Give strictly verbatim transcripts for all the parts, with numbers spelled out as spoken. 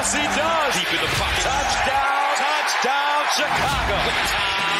Yes, he does. Deep in the pocket. Touchdown. Touchdown, Chicago.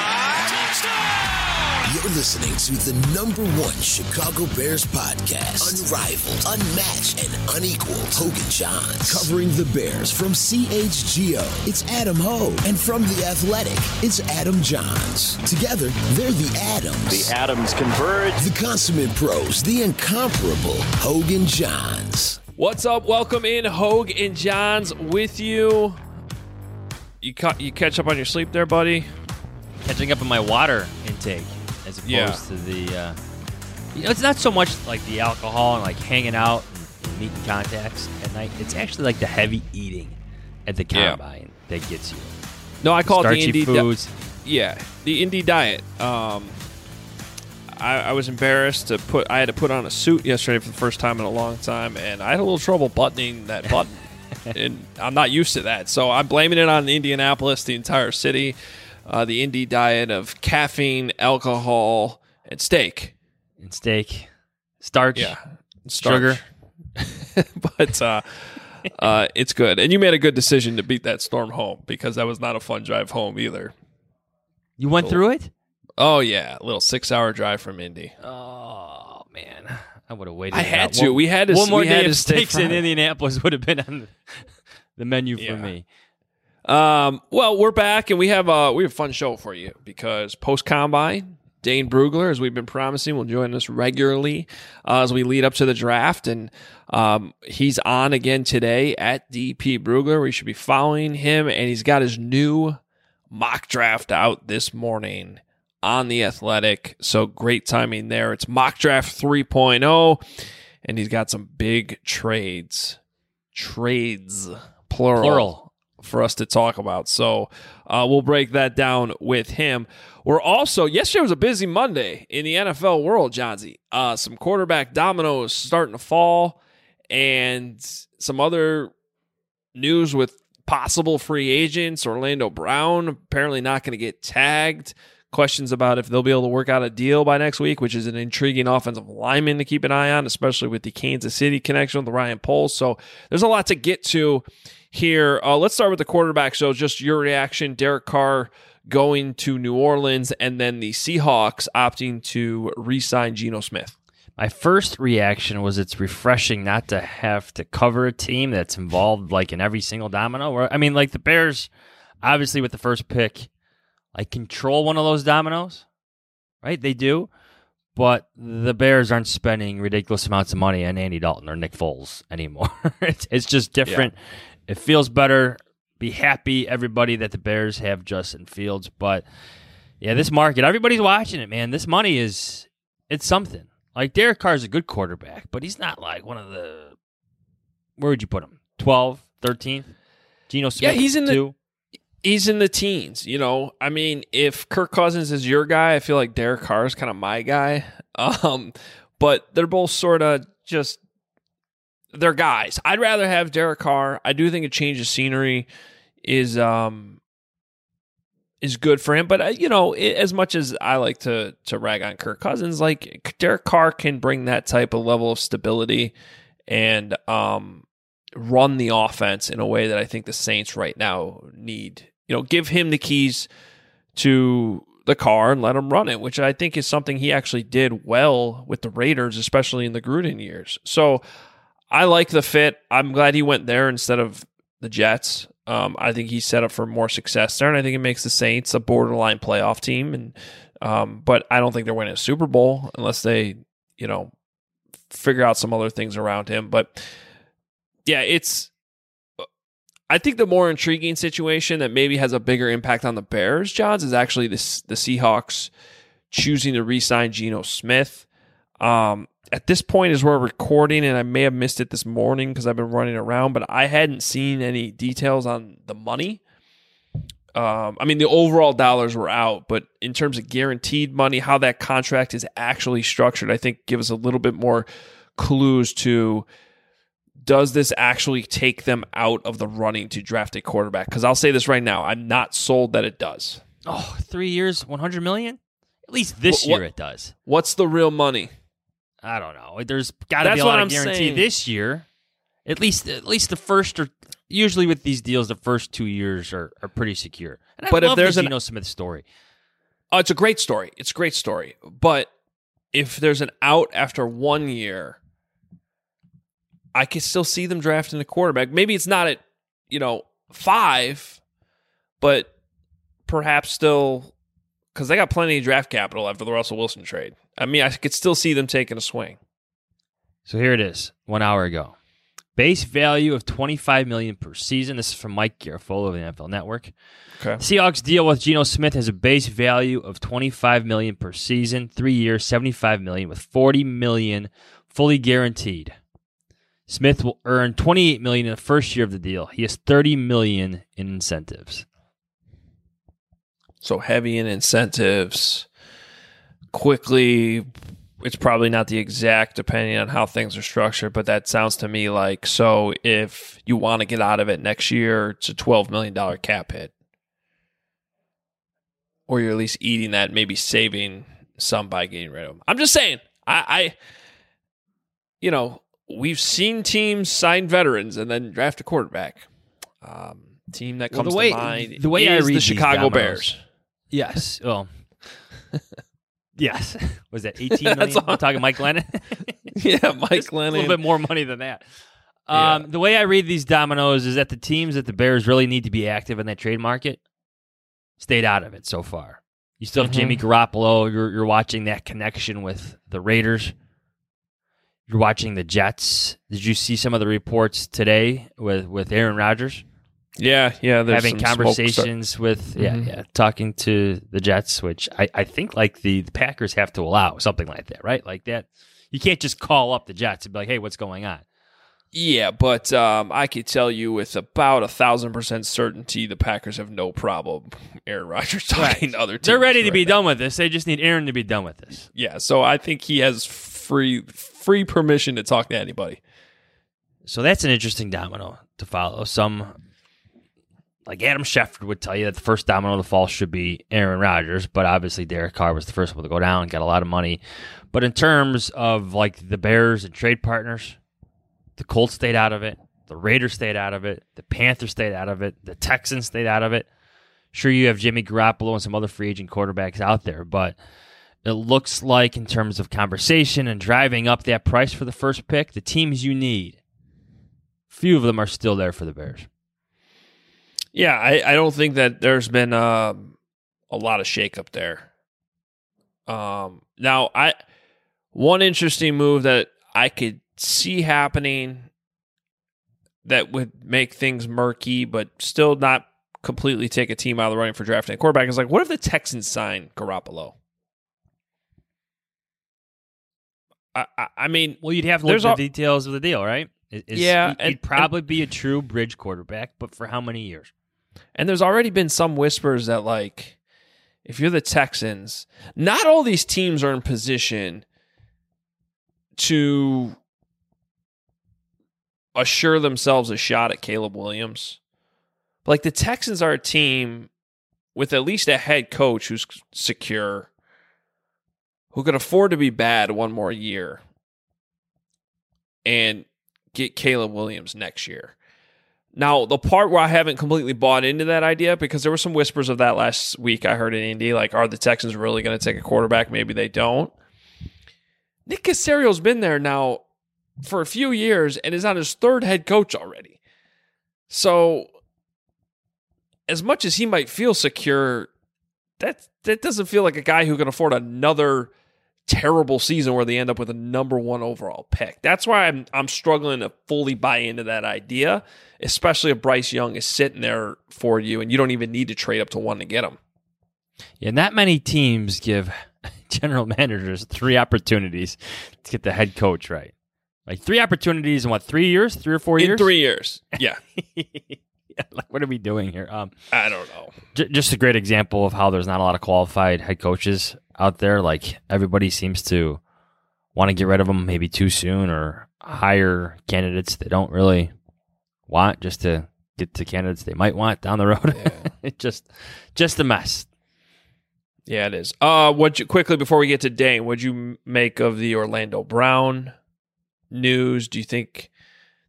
You're listening to the number one Chicago Bears podcast. Unrivaled, unmatched, and unequaled. Hogan Johns. Covering the Bears from C H G O, it's Adam Hogue. And from The Athletic, it's Adam Johns. Together, they're the Adams. The Adams converge. The consummate pros, the incomparable Hogan Johns. What's up? Welcome in, Hogue and Johns with you. You ca- you catch up on your sleep there, buddy? Catching up on my water intake as opposed Yeah. to the, uh, you know, it's not so much like the alcohol and like hanging out and, and meeting contacts at night. It's actually like the heavy eating at the Yeah. combine that gets you. No, I call Starchy it the indie foods. Di- yeah, the indie diet. Um, I, I was embarrassed to put. I had to put on a suit yesterday for the first time in a long time, and I had a little trouble buttoning that button. And I'm not used to that, so I'm blaming it on Indianapolis, the entire city, uh, the indie diet of caffeine, alcohol, and steak. And steak, starch, Yeah, starch. sugar. but uh, uh, it's good. And you made a good decision to beat that storm home because that was not a fun drive home either. You went through it? Oh, yeah. A little six-hour drive from Indy. Oh, man. I would have waited. I it had out. to. One, We had to- One more we had day to of stay steaks in Friday. Indianapolis would have been on the, the menu Yeah. for me. Um, well, we're back, and we have, uh, we have a fun show for you because post-combine, Dane Brugler, as we've been promising, will join us regularly uh, as we lead up to the draft. And um, he's on again today at D P Brugler. We should be following him, and he's got his new mock draft out this morning on The Athletic. So great timing there. It's Mock Draft three point oh, and he's got some big trades. Trades, plural. Plural. For us to talk about. So uh, we'll break that down with him. We're also, yesterday was a busy Monday in the N F L world, Johnsy. Uh, some quarterback dominoes starting to fall and some other news with possible free agents. Orlando Brown apparently not going to get tagged. Questions about if they'll be able to work out a deal by next week, which is an intriguing offensive lineman to keep an eye on, especially with the Kansas City connection with Ryan Poles. So there's a lot to get to here. Uh, let's start with the quarterback. So just your reaction, Derek Carr going to New Orleans and then the Seahawks opting to re-sign Geno Smith. My first reaction was it's refreshing not to have to cover a team that's involved like in every single domino. Where I mean, like the Bears, obviously with the first pick, like control one of those dominoes, right? They do, but the Bears aren't spending ridiculous amounts of money on Andy Dalton or Nick Foles anymore. it's, it's just different. Yeah. It feels better. Be happy, everybody, that the Bears have Justin Fields. But yeah, this market, everybody's watching it, man. This money is, it's something. Like Derek Carr is a good quarterback, but he's not like one of the, where would you put him? twelve, thirteenth? Geno Smith, yeah, he's in two? the he's in the teens. You know, I mean, if Kirk Cousins is your guy, I feel like Derek Carr is kind of my guy. Um, but they're both sort of just, they're guys. I'd rather have Derek Carr. I do think a change of scenery is um is good for him. But uh, you know, it, as much as I like to to rag on Kirk Cousins, like Derek Carr can bring that type of level of stability and um run the offense in a way that I think the Saints right now need. You know, give him the keys to the car and let him run it, which I think is something he actually did well with the Raiders, especially in the Gruden years. So I like the fit. I'm glad he went there instead of the Jets. Um, I think he's set up for more success there, and I think it makes the Saints a borderline playoff team. And um, but I don't think they're winning a Super Bowl unless they, you know, figure out some other things around him. But yeah, it's. I think the more intriguing situation that maybe has a bigger impact on the Bears, Johns, is actually this, the Seahawks choosing to re-sign Geno Smith. Um, at this point, as we're recording, and I may have missed it this morning because I've been running around, but I hadn't seen any details on the money. Um, I mean, the overall dollars were out, but in terms of guaranteed money, how that contract is actually structured, I think gives us a little bit more clues to, does this actually take them out of the running to draft a quarterback? Because I'll say this right now, I'm not sold that it does. Oh, three years, one hundred million dollars? At least this What- year it does. What's the real money? I don't know. There's got to That's be a what lot I'm of guarantee saying. this year. At least, at least the first or usually with these deals, the first two years are, are pretty secure. And I But if love there's the an- Geno Smith story. Oh, it's a great story. It's a great story. But if there's an out after one year, I can still see them drafting a quarterback. Maybe it's not at, you know, five, but perhaps still, because they got plenty of draft capital after the Russell Wilson trade. I mean, I could still see them taking a swing. So here it is, one hour ago. Base value of twenty-five million dollars per season. This is from Mike Garafolo of the N F L Network. Okay. Seahawks deal with Geno Smith has a base value of twenty-five million dollars per season, three years, seventy-five million dollars, with forty million dollars fully guaranteed. Smith will earn twenty-eight million dollars in the first year of the deal. He has thirty million dollars in incentives. So heavy in incentives. Quickly, it's probably not the exact depending on how things are structured, but that sounds to me like, so if you want to get out of it next year, it's a twelve million dollars cap hit. Or you're at least eating that, maybe saving some by getting rid of them. I'm just saying, I, I you know, we've seen teams sign veterans and then draft a quarterback. Um, team that Well, comes the way- to mind the way is I read the these Chicago dominoes- Bears. Yes. Well, yes. Was that eighteen million? That's all- I'm talking Mike Lennon. Yeah, Mike Just A Lennon. little bit more money than that. Yeah. Um, the way I read these dominoes is that the teams that the Bears really need to be active in that trade market stayed out of it so far. You still have Mhm. Jimmy Garoppolo. You're, you're watching that connection with the Raiders. You're watching the Jets. Did you see some of the reports today with, with Aaron Rodgers? Yeah, yeah. There's Having some smoke conversations with, yeah, Mhm. yeah, talking to the Jets, which I, I think like the, the Packers have to allow something like that, right? Like that. You can't just call up the Jets and be like, hey, what's going on? Yeah, but um, I could tell you with about a thousand percent certainty the Packers have no problem Aaron Rodgers talking to other teams. They're ready to right be now. done with this. They just need Aaron to be done with this. Yeah, so I think he has free free permission to talk to anybody. So that's an interesting domino to follow. Some, like Adam Schefter would tell you that the first domino to fall should be Aaron Rodgers, but obviously Derek Carr was the first one to go down, got a lot of money. But in terms of like the Bears and trade partners, the Colts stayed out of it. The Raiders stayed out of it. The Panthers stayed out of it. The Texans stayed out of it. Sure, you have Jimmy Garoppolo and some other free agent quarterbacks out there, but it looks like in terms of conversation and driving up that price for the first pick, the teams you need, few of them are still there for the Bears. Yeah, I, I don't think that there's been um, a lot of shakeup there. Um, now, I one interesting move that I could see happening that would make things murky, but still not completely take a team out of the running for drafting a quarterback is like, what if the Texans sign Garoppolo? I, I, I mean, Well, you'd have to look There's at the al- details of the deal, right? It- it's- Yeah, he'd, and- he'd probably be a true bridge quarterback, but for how many years? and there's already been some whispers that, like, if you're the Texans, not all these teams are in position to assure themselves a shot at Caleb Williams. Like, the Texans are a team with at least a head coach who's secure, who can afford to be bad one more year and get Caleb Williams next year. Now, the part where I haven't completely bought into that idea, because there were some whispers of that last week I heard in Indy, like, are the Texans really going to take a quarterback? Maybe they don't. Nick Caserio's been there now for a few years and is on his third head coach already. So, as much as he might feel secure, that that doesn't feel like a guy who can afford another terrible season where they end up with a number one overall pick. That's why I'm I'm struggling to fully buy into that idea, especially if Bryce Young is sitting there for you and you don't even need to trade up to one to get him. Yeah, not many teams give general managers three opportunities to get the head coach right. Like three opportunities in what, three years? Three or four In years? three years. Yeah. Yeah, like, what are we doing here? Um, I don't know. j- just a great example of how there's not a lot of qualified head coaches out there. Like everybody seems to want to get rid of them maybe too soon or hire candidates they don't really want just to get to candidates they might want down the road. Yeah. It just, just a mess. Yeah, it is. Uh, what you, quickly before we get to Dane, what'd you make of the Orlando Brown news? Do you think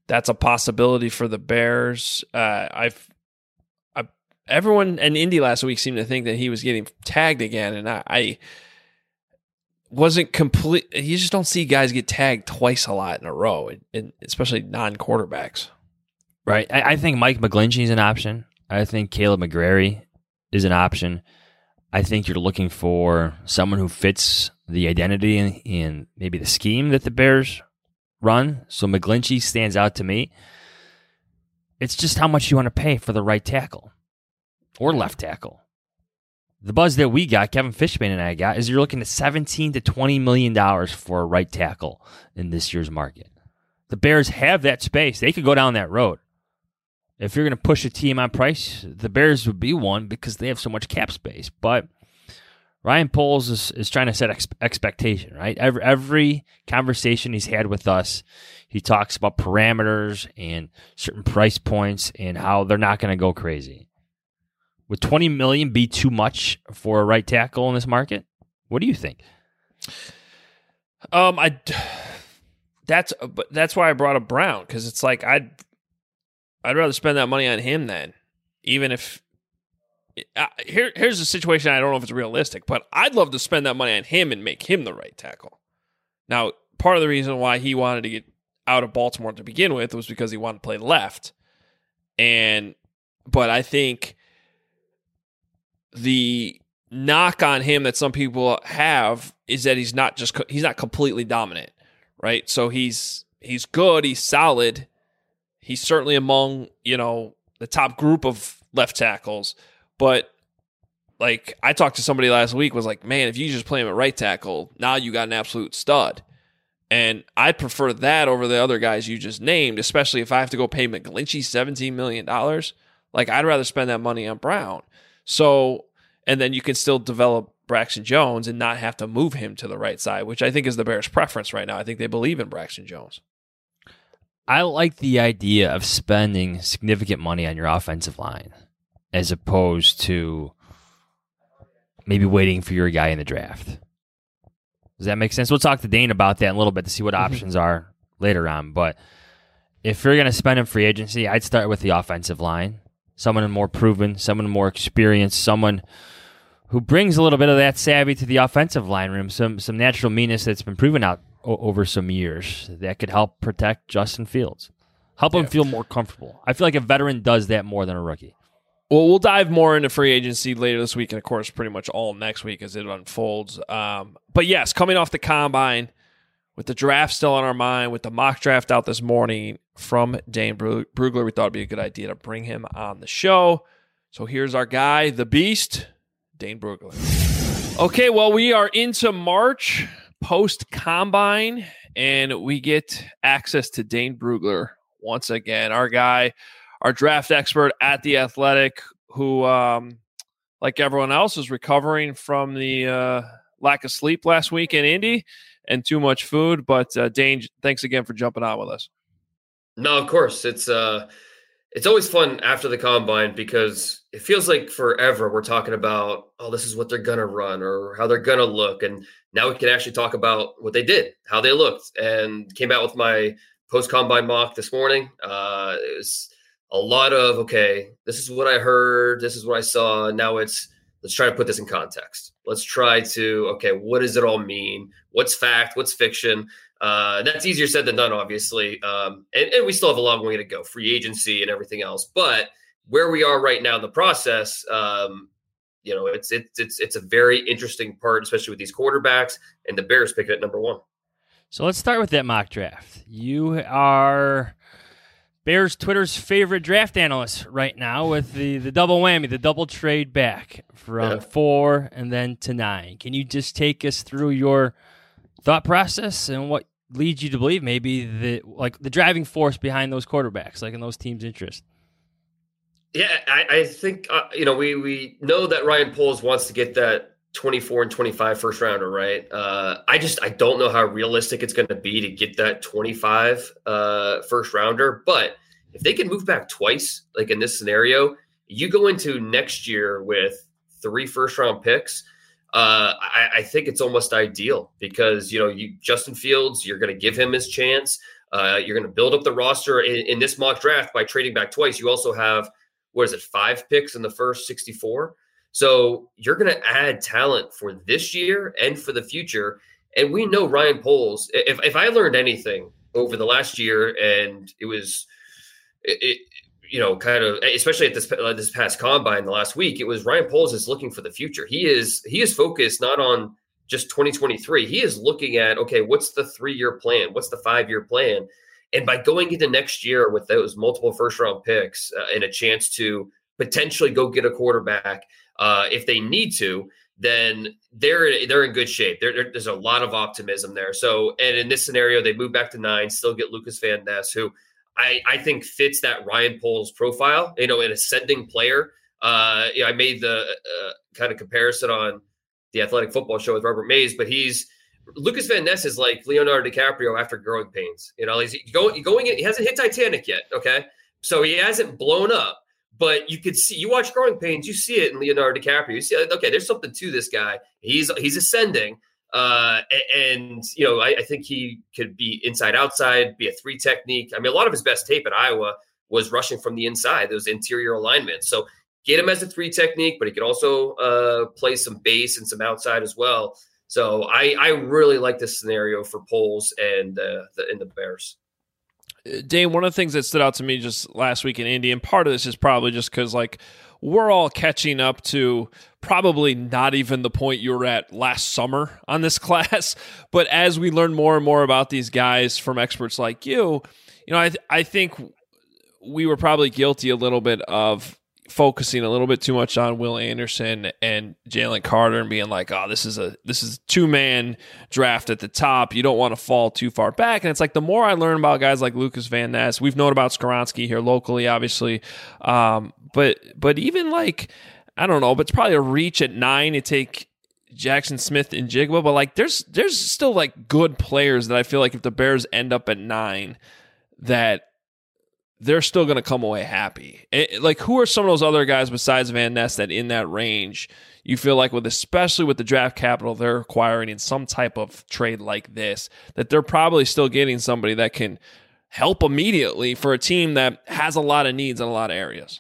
that's a possibility for the Bears. Uh, I've, I, everyone in Indy last week seemed to think that he was getting tagged again, and I, I wasn't complete. You just don't see guys get tagged twice a lot in a row, and, and especially non-quarterbacks. Right. I, I think Mike McGlinchey is an option. I think Caleb McGrary is an option. I think you're looking for someone who fits the identity and, and maybe the scheme that the Bears run. So McGlinchey stands out to me. It's just how much you want to pay for the right tackle or left tackle. The buzz that we got, Kevin Fishman and I got, is you're looking at seventeen to twenty million dollars for a right tackle in this year's market. The Bears have that space. They could go down that road. If you're going to push a team on price, the Bears would be one because they have so much cap space. But Ryan Poles is, is trying to set ex- expectation, right? Every, every conversation he's had with us, he talks about parameters and certain price points and how they're not going to go crazy. Would twenty million dollars be too much for a right tackle in this market? What do you think? Um, I that's but that's why I brought up Brown, because it's like I'd I'd rather spend that money on him then, even if uh, here here's a situation I don't know if it's realistic, but I'd love to spend that money on him and make him the right tackle. Now, part of the reason why he wanted to get out of Baltimore to begin with was because he wanted to play left, and but I think the knock on him that some people have is that he's not just he's not completely dominant, right? So he's he's good, he's solid. He's certainly among, you know, the top group of left tackles. But, like, I talked to somebody last week, was like, man, if you just play him at right tackle, now you got an absolute stud. And I prefer that over the other guys you just named, especially if I have to go pay McGlinchey seventeen million dollars. Like, I'd rather spend that money on Brown. So, and then you can still develop Braxton Jones and not have to move him to the right side, which I think is the Bears' preference right now. I think they believe in Braxton Jones. I like the idea of spending significant money on your offensive line as opposed to maybe waiting for your guy in the draft. Does that make sense? We'll talk to Dane about that in a little bit to see what mm-hmm. options are later on. But if you're going to spend in free agency, I'd start with the offensive line. Someone more proven, someone more experienced, someone who brings a little bit of that savvy to the offensive line room, some some natural meanness that's been proven out over some years that could help protect Justin Fields. Help him yeah. feel more comfortable. I feel like a veteran does that more than a rookie. Well, we'll dive more into free agency later this week and, of course, pretty much all next week as it unfolds. Um, but, yes, coming off the Combine, with the draft still on our mind, with the mock draft out this morning from Dane Brugler, we thought it would be a good idea to bring him on the show. So here's our guy, the Beast, Dane Brugler. Okay, well, we are into March, post-Combine, and we get access to Dane Brugler once again, our guy, our draft expert at The Athletic, who, um, like everyone else, is recovering from the uh, lack of sleep last week in Indy and too much food. But, uh, Dane, thanks again for jumping on with us. No, of course. It's uh, it's always fun after the Combine because it feels like forever we're talking about, oh, this is what they're going to run or how they're going to look. And now we can actually talk about what they did, how they looked, and came out with my post-Combine mock this morning. Uh, it was a lot of, okay, this is what I heard, this is what I saw. Now it's, let's try to put this in context. Let's try to, okay, what does it all mean? What's fact? What's fiction? Uh, that's easier said than done, obviously. Um, and, and we still have a long way to go, free agency and everything else. But where we are right now in the process, um, you know, it's it's it's it's a very interesting part, especially with these quarterbacks, and the Bears pick it at number one. So let's start with that mock draft. You are Bears Twitter's favorite draft analyst right now with the, the double whammy, the double trade back from yeah. four and then to nine. Can you just take us through your thought process and what leads you to believe maybe the like the driving force behind those quarterbacks, like in those teams' interest? Yeah, I, I think, uh, you know, we we know that Ryan Poles wants to get that twenty-four and twenty-five first rounder, right? Uh, I just, I don't know how realistic it's going to be to get that twenty-five uh, first rounder. But if they can move back twice, like in this scenario, you go into next year with three first round picks. Uh, I, I think it's almost ideal because, you know, you Justin Fields, you're going to give him his chance. Uh, you're going to build up the roster in, in this mock draft by trading back twice. You also have, what is it, five picks in the first sixty-four. So you're going to add talent for this year and for the future. And we know Ryan Poles, if, if I learned anything over the last year, and it was, it, it, you know, kind of, especially at this uh, this past combine the last week, it was Ryan Poles is looking for the future. He is he is focused not on just twenty twenty-three. He is looking at, okay, what's the three-year plan? What's the five-year plan? And by going into next year with those multiple first-round picks uh, and a chance to potentially go get a quarterback uh, if they need to, then they're they're in good shape. There, there, there's a lot of optimism there. So, and in this scenario, they move back to nine, still get Lucas Van Ness, who I, I think fits that Ryan Poles profile, you know, an ascending player. Uh, you know, I made the uh, kind of comparison on the Athletic Football Show with Robert Mays, but he's Lucas Van Ness is like Leonardo DiCaprio after growing pains. You know, he's going, going in, he hasn't hit Titanic yet. Okay. So he hasn't blown up, but you could see, you watch Growing Pains, you see it in Leonardo DiCaprio. You see, okay, there's something to this guy. He's, he's ascending. Uh, and, you know, I, I think he could be inside outside, be a three technique. I mean, a lot of his best tape at Iowa was rushing from the inside, those interior alignments. So get him as a three technique, but he could also uh, play some base and some outside as well. So I, I really like this scenario for Poles and uh, the and the Bears. Dane, one of the things that stood out to me just last week in Indy, and part of this is probably just because, like, we're all catching up to probably not even the point you were at last summer on this class. But as we learn more and more about these guys from experts like you, you know, I th- I think we were probably guilty a little bit of focusing a little bit too much on Will Anderson and Jalen Carter and being like, oh, this is a this is a two-man draft at the top. You don't want to fall too far back. And it's like the more I learn about guys like Lucas Van Ness, we've known about Skoronski here locally, obviously. Um, but but even like, I don't know, but it's probably a reach at nine to take Jackson Smith-Njigba. But like there's there's still like good players that I feel like if the Bears end up at nine, that they're still going to come away happy. It, like, who are some of those other guys besides Van Ness that in that range you feel like with, especially with the draft capital they're acquiring in some type of trade like this, that they're probably still getting somebody that can help immediately for a team that has a lot of needs in a lot of areas?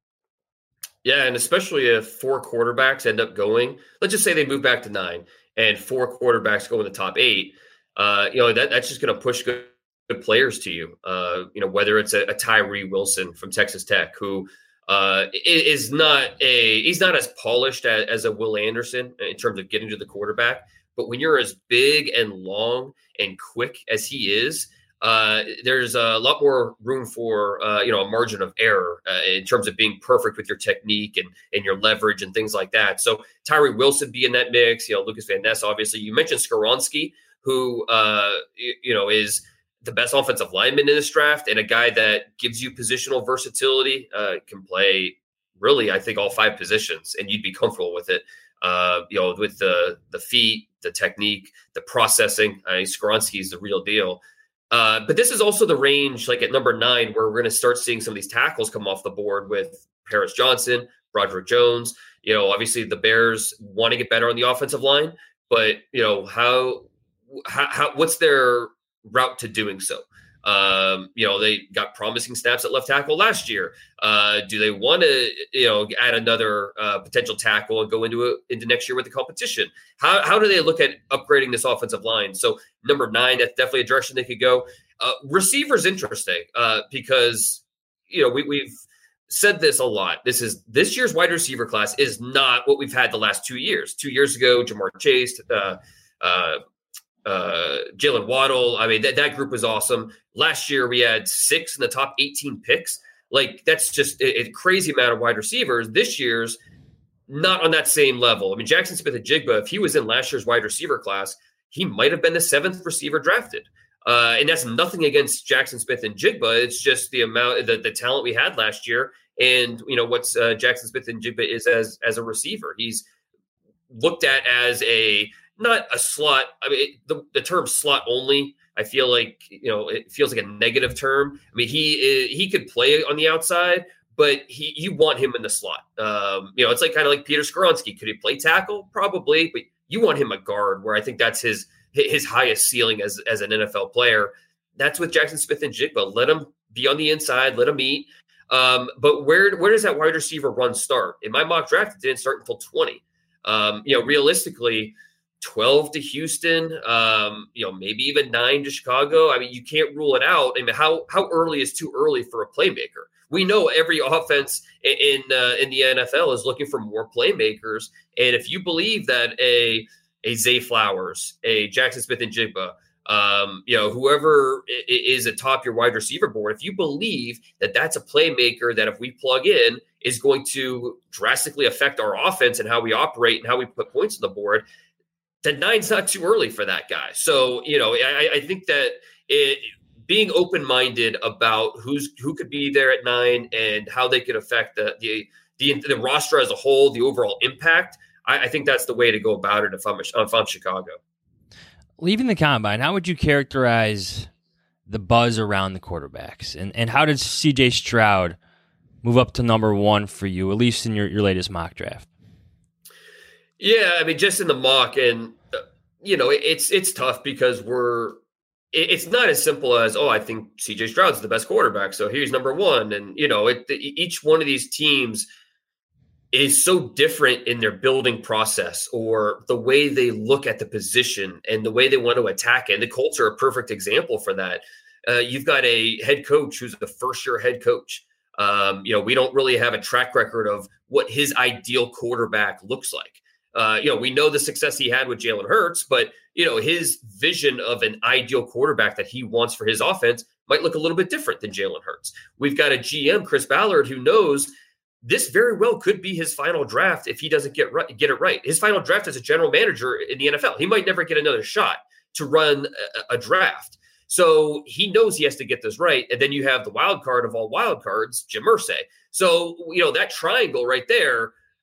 Yeah, and especially if four quarterbacks end up going, let's just say they move back to nine and four quarterbacks go in the top eight, uh, you know, that that's just going to push good good players to you, uh, you know, whether it's a, a Tyree Wilson from Texas Tech, who uh, is not a, he's not as polished as, as a Will Anderson in terms of getting to the quarterback. But when you're as big and long and quick as he is, uh, there's a lot more room for, uh, you know, a margin of error uh, in terms of being perfect with your technique and, and your leverage and things like that. So Tyree Wilson be in that mix, you know, Lucas Van Ness, obviously. You mentioned Skoronski, who, uh, you, you know, is the best offensive lineman in this draft and a guy that gives you positional versatility, uh, can play really, I think, all five positions, and you'd be comfortable with it. Uh, you know, with the the feet, the technique, the processing. I mean, Skoronski is the real deal. Uh, but this is also the range, like at number nine, where we're going to start seeing some of these tackles come off the board with Paris Johnson, Broderick Jones. You know, obviously the Bears want to get better on the offensive line, but you know how how, how what's their route to doing so? Um, you know, they got promising snaps at left tackle last year. Uh, do they want to, you know, add another uh, potential tackle and go into it into next year with the competition? How how do they look at upgrading this offensive line? So number nine, that's definitely a direction they could go. Uh, receivers interesting uh, because you know we, we've said this a lot. This is this year's wide receiver class is not what we've had the last two years. Two years ago, Jamar Chase. Uh, uh, Uh, Jalen Waddle. I mean, that, that group was awesome. Last year, we had six in the top eighteen picks. Like, that's just a, a crazy amount of wide receivers. This year's not on that same level. I mean, Jackson Smith-Njigba, if he was in last year's wide receiver class, he might have been the seventh receiver drafted. Uh, and that's nothing against Jackson Smith-Njigba. It's just the amount, the, the talent we had last year. And, you know, what's uh, Jackson Smith-Njigba is as, as a receiver. He's looked at as a, not a slot. I mean, the, the term slot only, I feel like, you know, it feels like a negative term. I mean, he he could play on the outside, but he you want him in the slot. Um, you know, it's like kind of like Peter Skoronski. Could he play tackle? Probably, but you want him a guard, where I think that's his his highest ceiling as as an N F L player. that's with Jackson Smith and Jigba. Let him be on the inside, let him eat. Um, but where where does that wide receiver run start? In my mock draft, it didn't start until twenty. Um, you know, realistically, twelve to Houston, um, you know, maybe even nine to Chicago. I mean, you can't rule it out. I mean, how how early is too early for a playmaker? We know every offense in in, uh, in the N F L is looking for more playmakers, and if you believe that a a Zay Flowers, a Jackson Smith and Jigba, um, you know, whoever is atop your wide receiver board, if you believe that that's a playmaker that if we plug in is going to drastically affect our offense and how we operate and how we put points on the board, then nine's not too early for that guy. So, you know, I, I think that it, being open-minded about who's who could be there at nine and how they could affect the the the, the roster as a whole, the overall impact, I, I think that's the way to go about it if I'm if I'm Chicago. Leaving the combine, how would you characterize the buzz around the quarterbacks? And and how did C J Stroud move up to number one for you, at least in your, your latest mock draft? Yeah, I mean, just in the mock, and, uh, you know, it, it's it's tough because we're it, – it's not as simple as, oh, I think C J Stroud's the best quarterback, so he's number one. And, you know, it, the, each one of these teams – is so different in their building process or the way they look at the position and the way they want to attack it. And the Colts are a perfect example for that. Uh, you've got a head coach who's a first-year head coach. Um, you know, we don't really have a track record of what his ideal quarterback looks like. Uh, you know, we know the success he had with Jalen Hurts, but, you know, his vision of an ideal quarterback that he wants for his offense might look a little bit different than Jalen Hurts. We've got a G M, Chris Ballard, who knows this very well could be his final draft if he doesn't get right, get it right. His final draft as a general manager in the N F L. He might never get another shot to run a, a draft. So he knows he has to get this right. And then you have the wild card of all wild cards, Jim Irsay. So, you know, that triangle right there,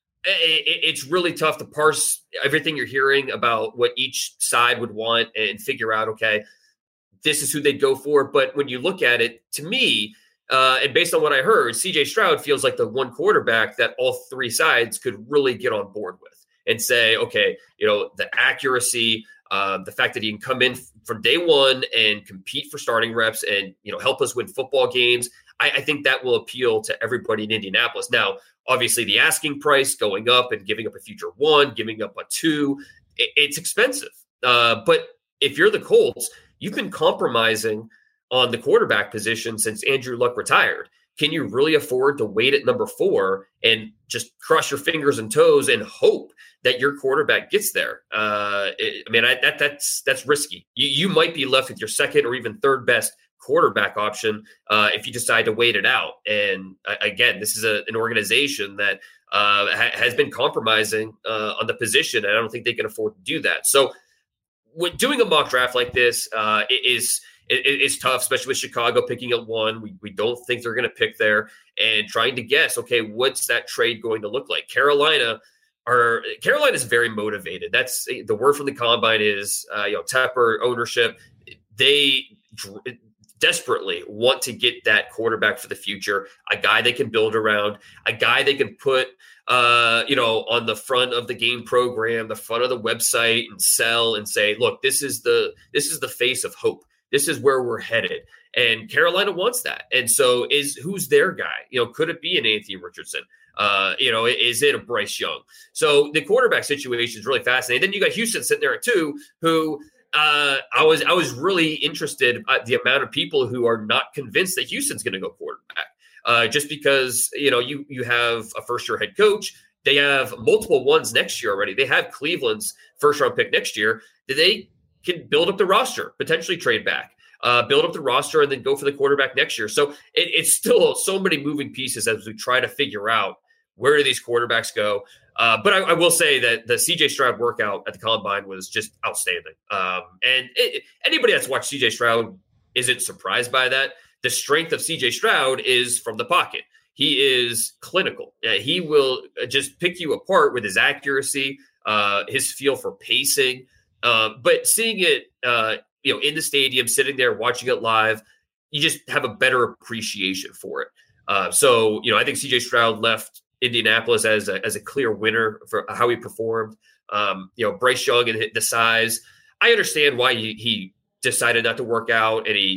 it, it's really tough to parse everything you're hearing about what each side would want and figure out, okay, this is who they'd go for. But when you look at it, to me, Uh, and based on what I heard, C J Stroud feels like the one quarterback that all three sides could really get on board with and say, okay, you know, the accuracy, uh, the fact that he can come in from day one and compete for starting reps and, you know, help us win football games. I, I think that will appeal to everybody in Indianapolis. Now, obviously the asking price going up and giving up a future one, giving up a two, it, it's expensive. Uh, but if you're the Colts, you've been compromising on the quarterback position since Andrew Luck retired. Can you really afford to wait at number four and just cross your fingers and toes and hope that your quarterback gets there? Uh, it, I mean, I, that that's that's risky. You, you might be left with your second or even third best quarterback option uh, if you decide to wait it out. And uh, again, this is a, an organization that uh, ha- has been compromising uh, on the position, and I don't think they can afford to do that. So, when doing a mock draft like this uh, is It, it's tough, especially with Chicago picking at one. We we don't think they're going to pick there, and trying to guess, okay, what's that trade going to look like? Carolina are Carolina is very motivated. That's the word from the combine is uh, you know Tepper ownership. They dr- desperately want to get that quarterback for the future, a guy they can build around, a guy they can put uh, you know on the front of the game program, the front of the website, and sell and say, look, this is the this is the face of hope. This is where we're headed. And Carolina wants that. And so is who's their guy? You know, could it be an Anthony Richardson? Uh, you know, is it a Bryce Young? So the quarterback situation is really fascinating. Then you got Houston sitting there at two, who uh, I was I was really interested at the amount of people who are not convinced that Houston's going to go quarterback. Uh, just because, you know, you you have a first-year head coach. They have multiple ones next year already. They have Cleveland's first-round pick next year. They can build up the roster, potentially trade back, uh, build up the roster, and then go for the quarterback next year. So it, it's still so many moving pieces as we try to figure out where do these quarterbacks go. Uh, but I, I will say that the C J Stroud workout at the Combine was just outstanding. Um, and it, anybody that's watched C J Stroud isn't surprised by that. The strength of C J Stroud is from the pocket. He is clinical. Uh, he will just pick you apart with his accuracy, uh, his feel for pacing. Uh, but seeing it, uh, you know, in the stadium, sitting there, watching it live, you just have a better appreciation for it. Uh, so, you know, I think C J Stroud left Indianapolis as a, as a clear winner for how he performed. Um, you know, Bryce Young and the size. I understand why he, he decided not to work out, and he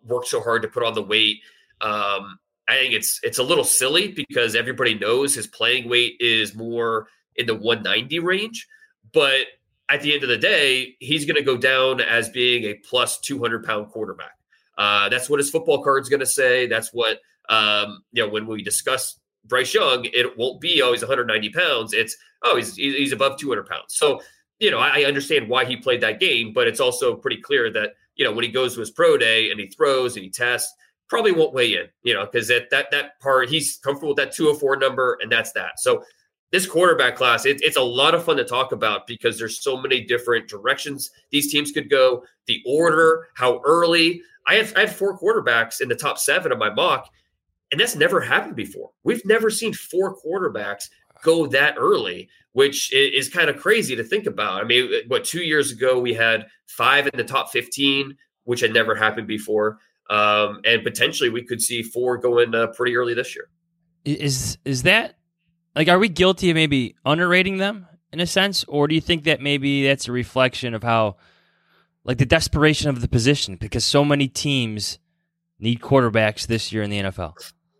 work so hard to put on the weight. Um, I think it's it's a little silly because everybody knows his playing weight is more in the one ninety range. But at the end of the day, he's going to go down as being a plus two hundred pound quarterback. Uh, that's what his football card's going to say. That's what, um, you know, when we discuss Bryce Young, it won't be, oh, he's one hundred ninety pounds. It's, oh, he's he's above two hundred pounds. So, you know, I, I understand why he played that game, but it's also pretty clear that, you know, when he goes to his pro day and he throws and he tests, probably won't weigh in, you know, because that, that, that part, he's comfortable with that two oh four number, and that's that. So this quarterback class, it, it's a lot of fun to talk about because there's so many different directions these teams could go, the order, how early. I have, I have four quarterbacks in the top seven of my mock, and that's never happened before. We've never seen four quarterbacks go that early, which is kind of crazy to think about. I mean, what, two years ago we had five in the top fifteen, which had never happened before. Um, and potentially we could see four going uh, pretty early this year. Is is that, like, are we guilty of maybe underrating them in a sense? Or do you think that maybe that's a reflection of how, like, the desperation of the position, because so many teams need quarterbacks this year in the N F L?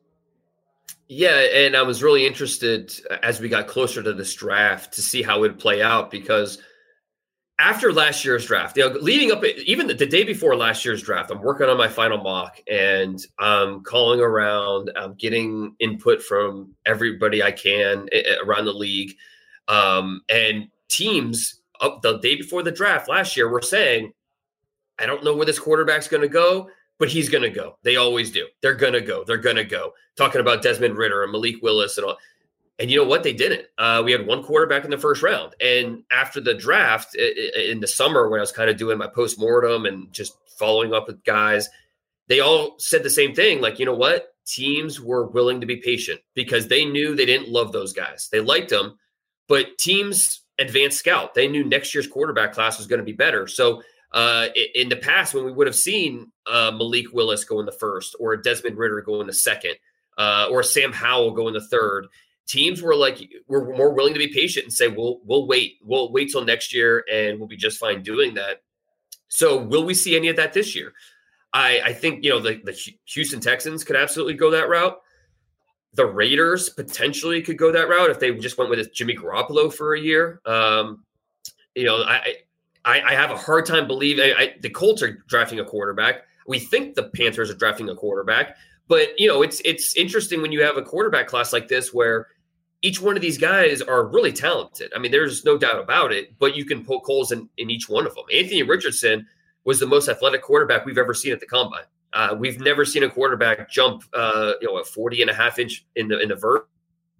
Yeah, and I was really interested as we got closer to this draft to see how it would play out, because after last year's draft, you know, leading up, even the, the day before last year's draft, I'm working on my final mock and I'm calling around, I'm getting input from everybody I can around the league. Um, and teams up the day before the draft last year were saying, I don't know where this quarterback's going to go, but he's going to go. They always do. They're going to go. They're going to go. Talking about Desmond Ridder and Malik Willis and all. And you know what? They didn't. Uh, we had one quarterback in the first round. And after the draft in the summer, when I was kind of doing my postmortem and just following up with guys, they all said the same thing. Like, you know what? Teams were willing to be patient because they knew they didn't love those guys. They liked them, but teams advanced scout. They knew next year's quarterback class was going to be better. So uh, in the past, when we would have seen uh, Malik Willis go in the first, or Desmond Ridder go in the second, uh, or Sam Howell go in the third, teams were like, we're more willing to be patient and say, we'll, we'll wait, we'll wait till next year and we'll be just fine doing that. So will we see any of that this year? I, I think, you know, the, the Houston Texans could absolutely go that route. The Raiders potentially could go that route if they just went with Jimmy Garoppolo for a year. Um, you know, I, I, I have a hard time believing I, I, the Colts are drafting a quarterback. We think the Panthers are drafting a quarterback, but you know, it's, it's interesting when you have a quarterback class like this, where each one of these guys are really talented. I mean, there's no doubt about it, but you can poke holes in, in each one of them. Anthony Richardson was the most athletic quarterback we've ever seen at the combine. Uh, we've never seen a quarterback jump, uh, you know, a forty and a half inch in the, in the vert,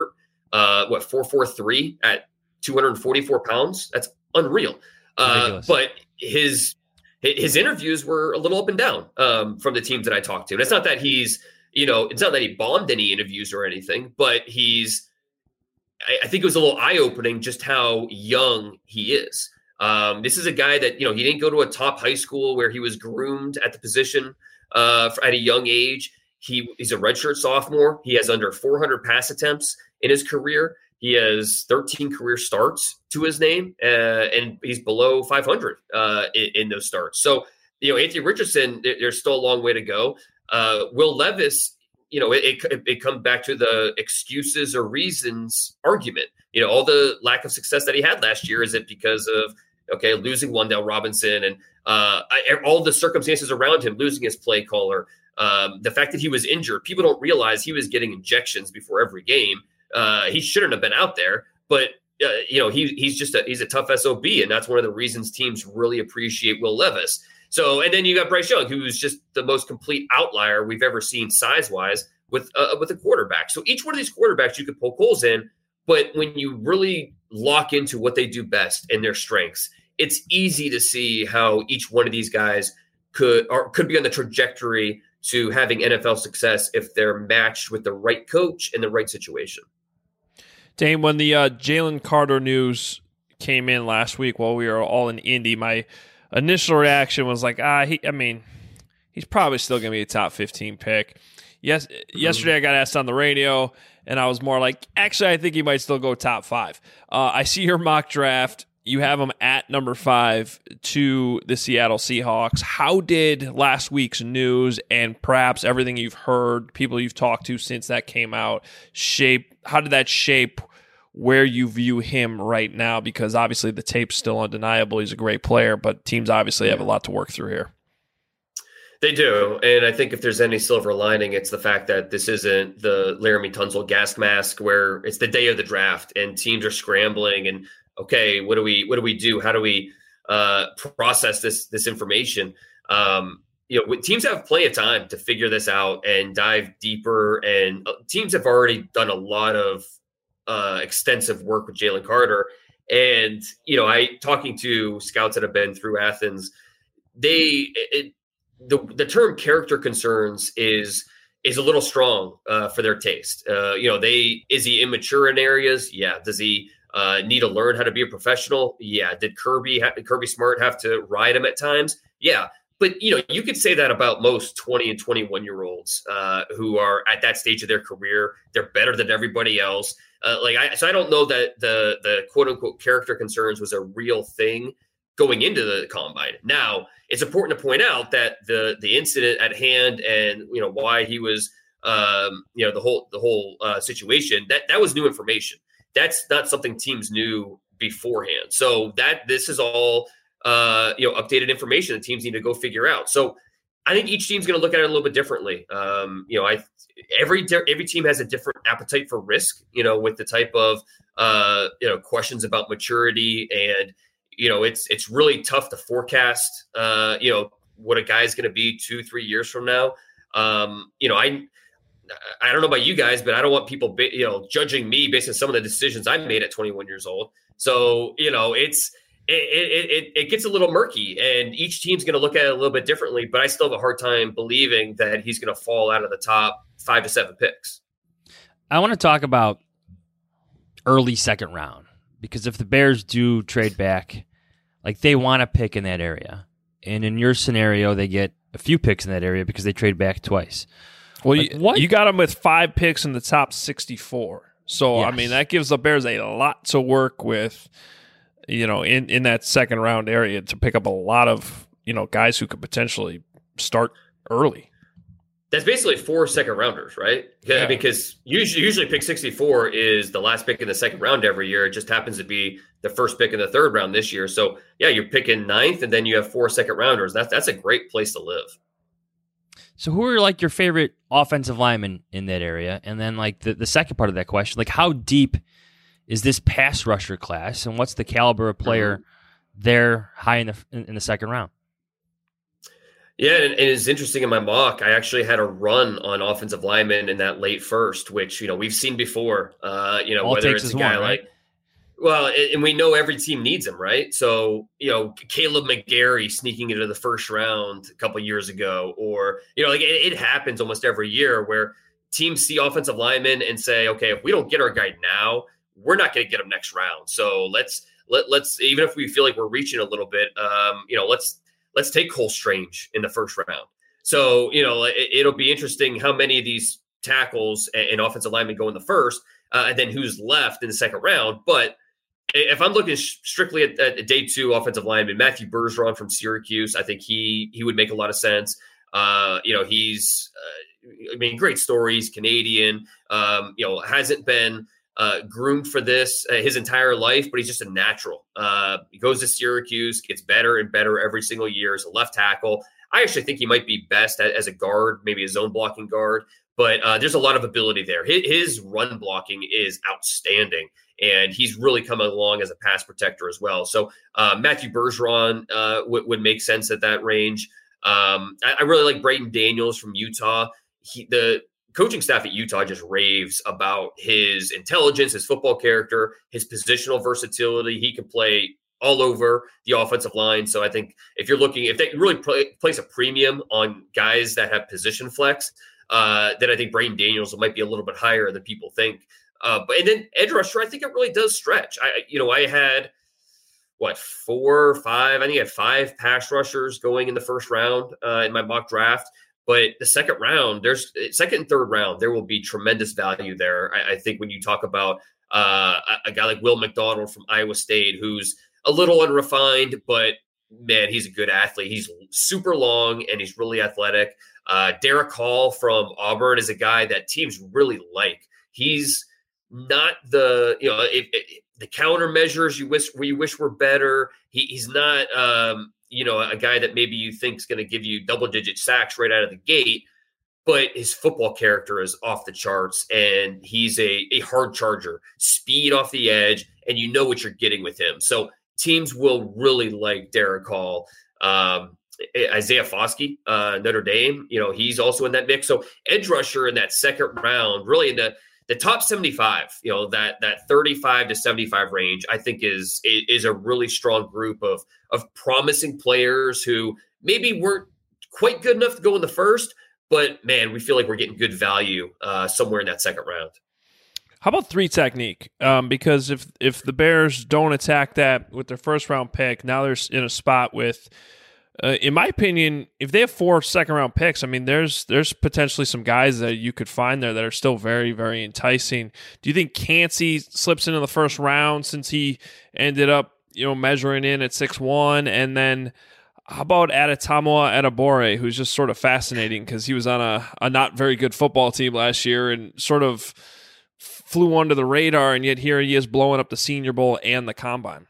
uh, what, four, four, three at two hundred forty-four pounds. That's unreal. Uh, but his, his interviews were a little up and down, um, from the teams that I talked to. And it's not that he's, you know, it's not that he bombed any interviews or anything, but he's, I think it was a little eye-opening just how young he is. Um, this is a guy that, you know, he didn't go to a top high school where he was groomed at the position uh, for, at a young age. He, he's a redshirt sophomore. He has under four hundred pass attempts in his career. He has thirteen career starts to his name, uh, and he's below five hundred uh, in, in those starts. So, you know, Anthony Richardson, there's still a long way to go. Uh, Will Levis, you know, it, it, it comes back to the excuses or reasons argument. You know, all the lack of success that he had last year, is it because of, okay, losing Wan'Dale Robinson and uh, all the circumstances around him, losing his play caller, um, the fact that he was injured. People don't realize he was getting injections before every game. Uh, he shouldn't have been out there, but uh, you know, he he's just a, he's a tough S O B, and that's one of the reasons teams really appreciate Will Levis. So, and then you got Bryce Young, who's just the most complete outlier we've ever seen size-wise with uh, with a quarterback. So each one of these quarterbacks you could poke holes in, but when you really lock into what they do best and their strengths, it's easy to see how each one of these guys could or could be on the trajectory to having N F L success if they're matched with the right coach in the right situation. Dane, when the uh, Jalen Carter news came in last week while we were all in Indy, my initial reaction was like, ah, he, I mean, he's probably still going to be a top fifteen pick. Yes, mm-hmm. Yesterday I got asked on the radio, and I was more like, actually, I think he might still go top five. Uh, I see your mock draft. You have them at number five to the Seattle Seahawks. How did last week's news and perhaps everything you've heard, people you've talked to since that came out, shape? How did that shape where you view him right now? Because obviously the tape's still undeniable. He's a great player, but teams obviously have a lot to work through here. They do. And I think if there's any silver lining, it's the fact that this isn't the Laramie Tunsil gas mask where it's the day of the draft and teams are scrambling and, okay, what do we what do we do? How do we uh, process this this information? Um, you know, teams have plenty of time to figure this out and dive deeper. And uh, teams have already done a lot of uh, extensive work with Jalen Carter. And you know, I talking to scouts that have been through Athens, they it, the the term character concerns is is a little strong uh, for their taste. Uh, you know, they is he immature in areas? Yeah. Does he Uh, need to learn how to be a professional? Yeah. Did Kirby ha- Kirby Smart have to ride him at times? Yeah. But, you know, you could say that about most twenty and twenty-one year olds uh, who are at that stage of their career. They're better than everybody else. Uh, like, I, so I don't know that the, the quote unquote character concerns was a real thing going into the combine. Now, it's important to point out that the, the incident at hand and, you know, why he was, um, you know, the whole, the whole uh, situation, that, that was new information. That's not something teams knew beforehand. So that this is all, uh, you know, updated information that teams need to go figure out. So I think each team's going to look at it a little bit differently. Um, you know, I every every team has a different appetite for risk. You know, with the type of uh, you know questions about maturity, and you know, it's it's really tough to forecast. Uh, you know, what a guy's going to be two, three years from now. Um, you know, I. I don't know about you guys, but I don't want people, you know, judging me based on some of the decisions I made at twenty-one years old. So, you know, it's, it, it, it, it gets a little murky and each team's going to look at it a little bit differently, but I still have a hard time believing that he's going to fall out of the top five to seven picks. I want to talk about early second round, because if the Bears do trade back, like they want to pick in that area. And in your scenario, they get a few picks in that area because they trade back twice. Well, like, you, what? you got them with five picks in the top sixty-four. So, Yes. I mean, that gives the Bears a lot to work with, you know, in, in that second round area to pick up a lot of, you know, guys who could potentially start early. That's basically four second rounders, right? Yeah. Because usually, usually pick sixty-four is the last pick in the second round every year. It just happens to be the first pick in the third round this year. So, yeah, you're picking ninth, and then you have four second rounders. That's, that's a great place to live. So who are like your favorite offensive linemen in that area? And then like the, the second part of that question, like how deep is this pass rusher class, and what's the caliber of player mm-hmm. there high in the in, in the second round? Yeah, and, and it's interesting in my mock, I actually had a run on offensive linemen in that late first, which, you know, we've seen before, uh, you know, All whether it takes it's a is guy one, right? like, well, and we know every team needs him, right? So, you know, Caleb McGarry sneaking into the first round a couple years ago, or, you know, like it, it happens almost every year where teams see offensive linemen and say, okay, if we don't get our guy now, we're not going to get him next round. So let's, let, let's, even if we feel like we're reaching a little bit, um, you know, let's, let's take Cole Strange in the first round. So, you know, it, it'll be interesting how many of these tackles and, and offensive linemen go in the first, uh, and then who's left in the second round. But if I'm looking strictly at, at day two offensive lineman, Matthew Bergeron from Syracuse, I think he he would make a lot of sense. Uh, you know, he's, uh, I mean, great stories, Canadian, um, you know, hasn't been uh, groomed for this uh, his entire life, but he's just a natural. Uh, he goes to Syracuse, gets better and better every single year as a left tackle. I actually think he might be best at, as a guard, maybe a zone blocking guard, but uh, there's a lot of ability there. His, his run blocking is outstanding. And he's really coming along as a pass protector as well. So uh, Matthew Bergeron uh, w- would make sense at that range. Um, I, I really like Brayton Daniels from Utah. He, the coaching staff at Utah just raves about his intelligence, his football character, his positional versatility. He can play all over the offensive line. So I think if you're looking, if they really play, place a premium on guys that have position flex, uh, then I think Brayton Daniels might be a little bit higher than people think. Uh, but and then edge rusher, I think it really does stretch. I, you know, I had what four, five. I think I had five pass rushers going in the first round uh, in my mock draft. But the second round, there's second and third round, there will be tremendous value there. I, I think when you talk about uh, a, a guy like Will McDonald from Iowa State, who's a little unrefined, but man, he's a good athlete. He's super long and he's really athletic. Uh, Derek Hall from Auburn is a guy that teams really like. He's not the, you know, it, it, the countermeasures you wish we wish were better. He, he's not, um, you know, a guy that maybe you think is going to give you double digit sacks right out of the gate, but his football character is off the charts, and he's a, a hard charger, speed off the edge, and you know what you're getting with him. So teams will really like Derek Hall. Um, Isaiah Foskey, uh, Notre Dame, you know, he's also in that mix. So edge rusher in that second round, really in the The top seventy-five, you know, that that thirty-five to seventy-five range, I think is is a really strong group of of promising players who maybe weren't quite good enough to go in the first, but man, we feel like we're getting good value uh, somewhere in that second round. How about three technique? Um, because if if the Bears don't attack that with their first round pick, now they're in a spot with. Uh, in my opinion, if they have four second-round picks, I mean, there's there's potentially some guys that you could find there that are still very, very enticing. Do you think Kancey slips into the first round since he ended up, you know, measuring in at six one? And then how about Adetomiwa Adebawore, who's just sort of fascinating because he was on a, a not very good football team last year and sort of flew under the radar, and yet here he is blowing up the Senior Bowl and the Combine.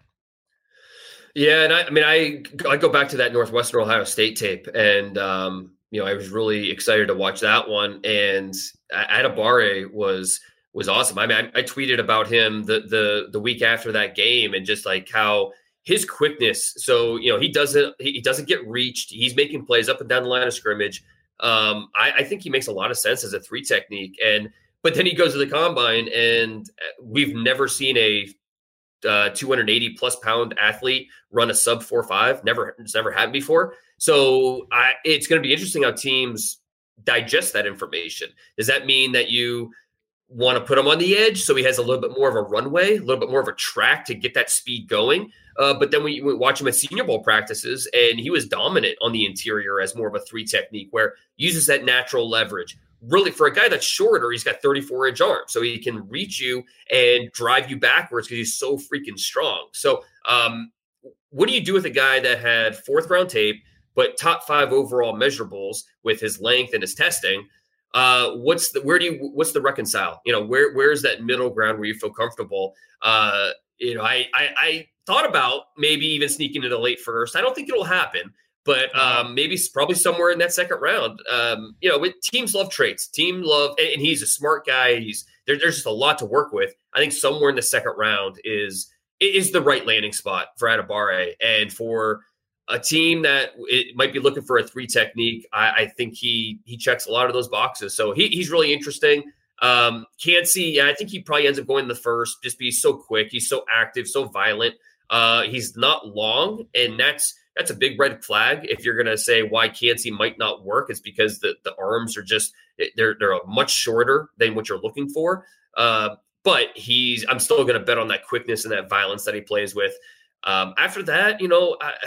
Yeah, and I, I mean, I I go back to that Northwestern Ohio State tape, and um, you know, I was really excited to watch that one. And Adebawore was was awesome. I mean, I, I tweeted about him the the the week after that game, and just like how his quickness. So you know, he doesn't he doesn't get reached. He's making plays up and down the line of scrimmage. Um, I, I think he makes a lot of sense as a three technique. And but then he goes to the Combine, and we've never seen a Uh, two hundred eighty plus pound athlete run a sub four five. Never, it's never happened before. So I, it's going to be interesting how teams digest that information. Does that mean that you want to put him on the edge so he has a little bit more of a runway, a little bit more of a track to get that speed going? Uh, but then we, we watch him at Senior Bowl practices, and he was dominant on the interior as more of a three technique where he uses that natural leverage. Really, for a guy that's shorter, he's got thirty-four inch arms, so he can reach you and drive you backwards because he's so freaking strong. So um, what do you do with a guy that had fourth round tape, but top five overall measurables with his length and his testing? Uh, what's the, where do you, what's the reconcile? You know, where, where's that middle ground where you feel comfortable? Uh, you know, I, I, I thought about maybe even sneaking into the late first. I don't think it'll happen. But um, maybe probably somewhere in that second round. Um, you know, with, teams love traits. Team love, and, and he's a smart guy. He's there, there's just a lot to work with. I think somewhere in the second round is is the right landing spot for Adebawore, and for a team that it might be looking for a three technique. I, I think he he checks a lot of those boxes. So he, he's really interesting. Um, Kancey, yeah, I think he probably ends up going the first. Just be so quick. He's so active, so violent. Uh, he's not long, and that's. That's a big red flag. If you're going to say why Kancey might not work, it's because the, the arms are just, they're, they're much shorter than what you're looking for. Uh, but he's, I'm still going to bet on that quickness and that violence that he plays with. Um, after that, you know, I,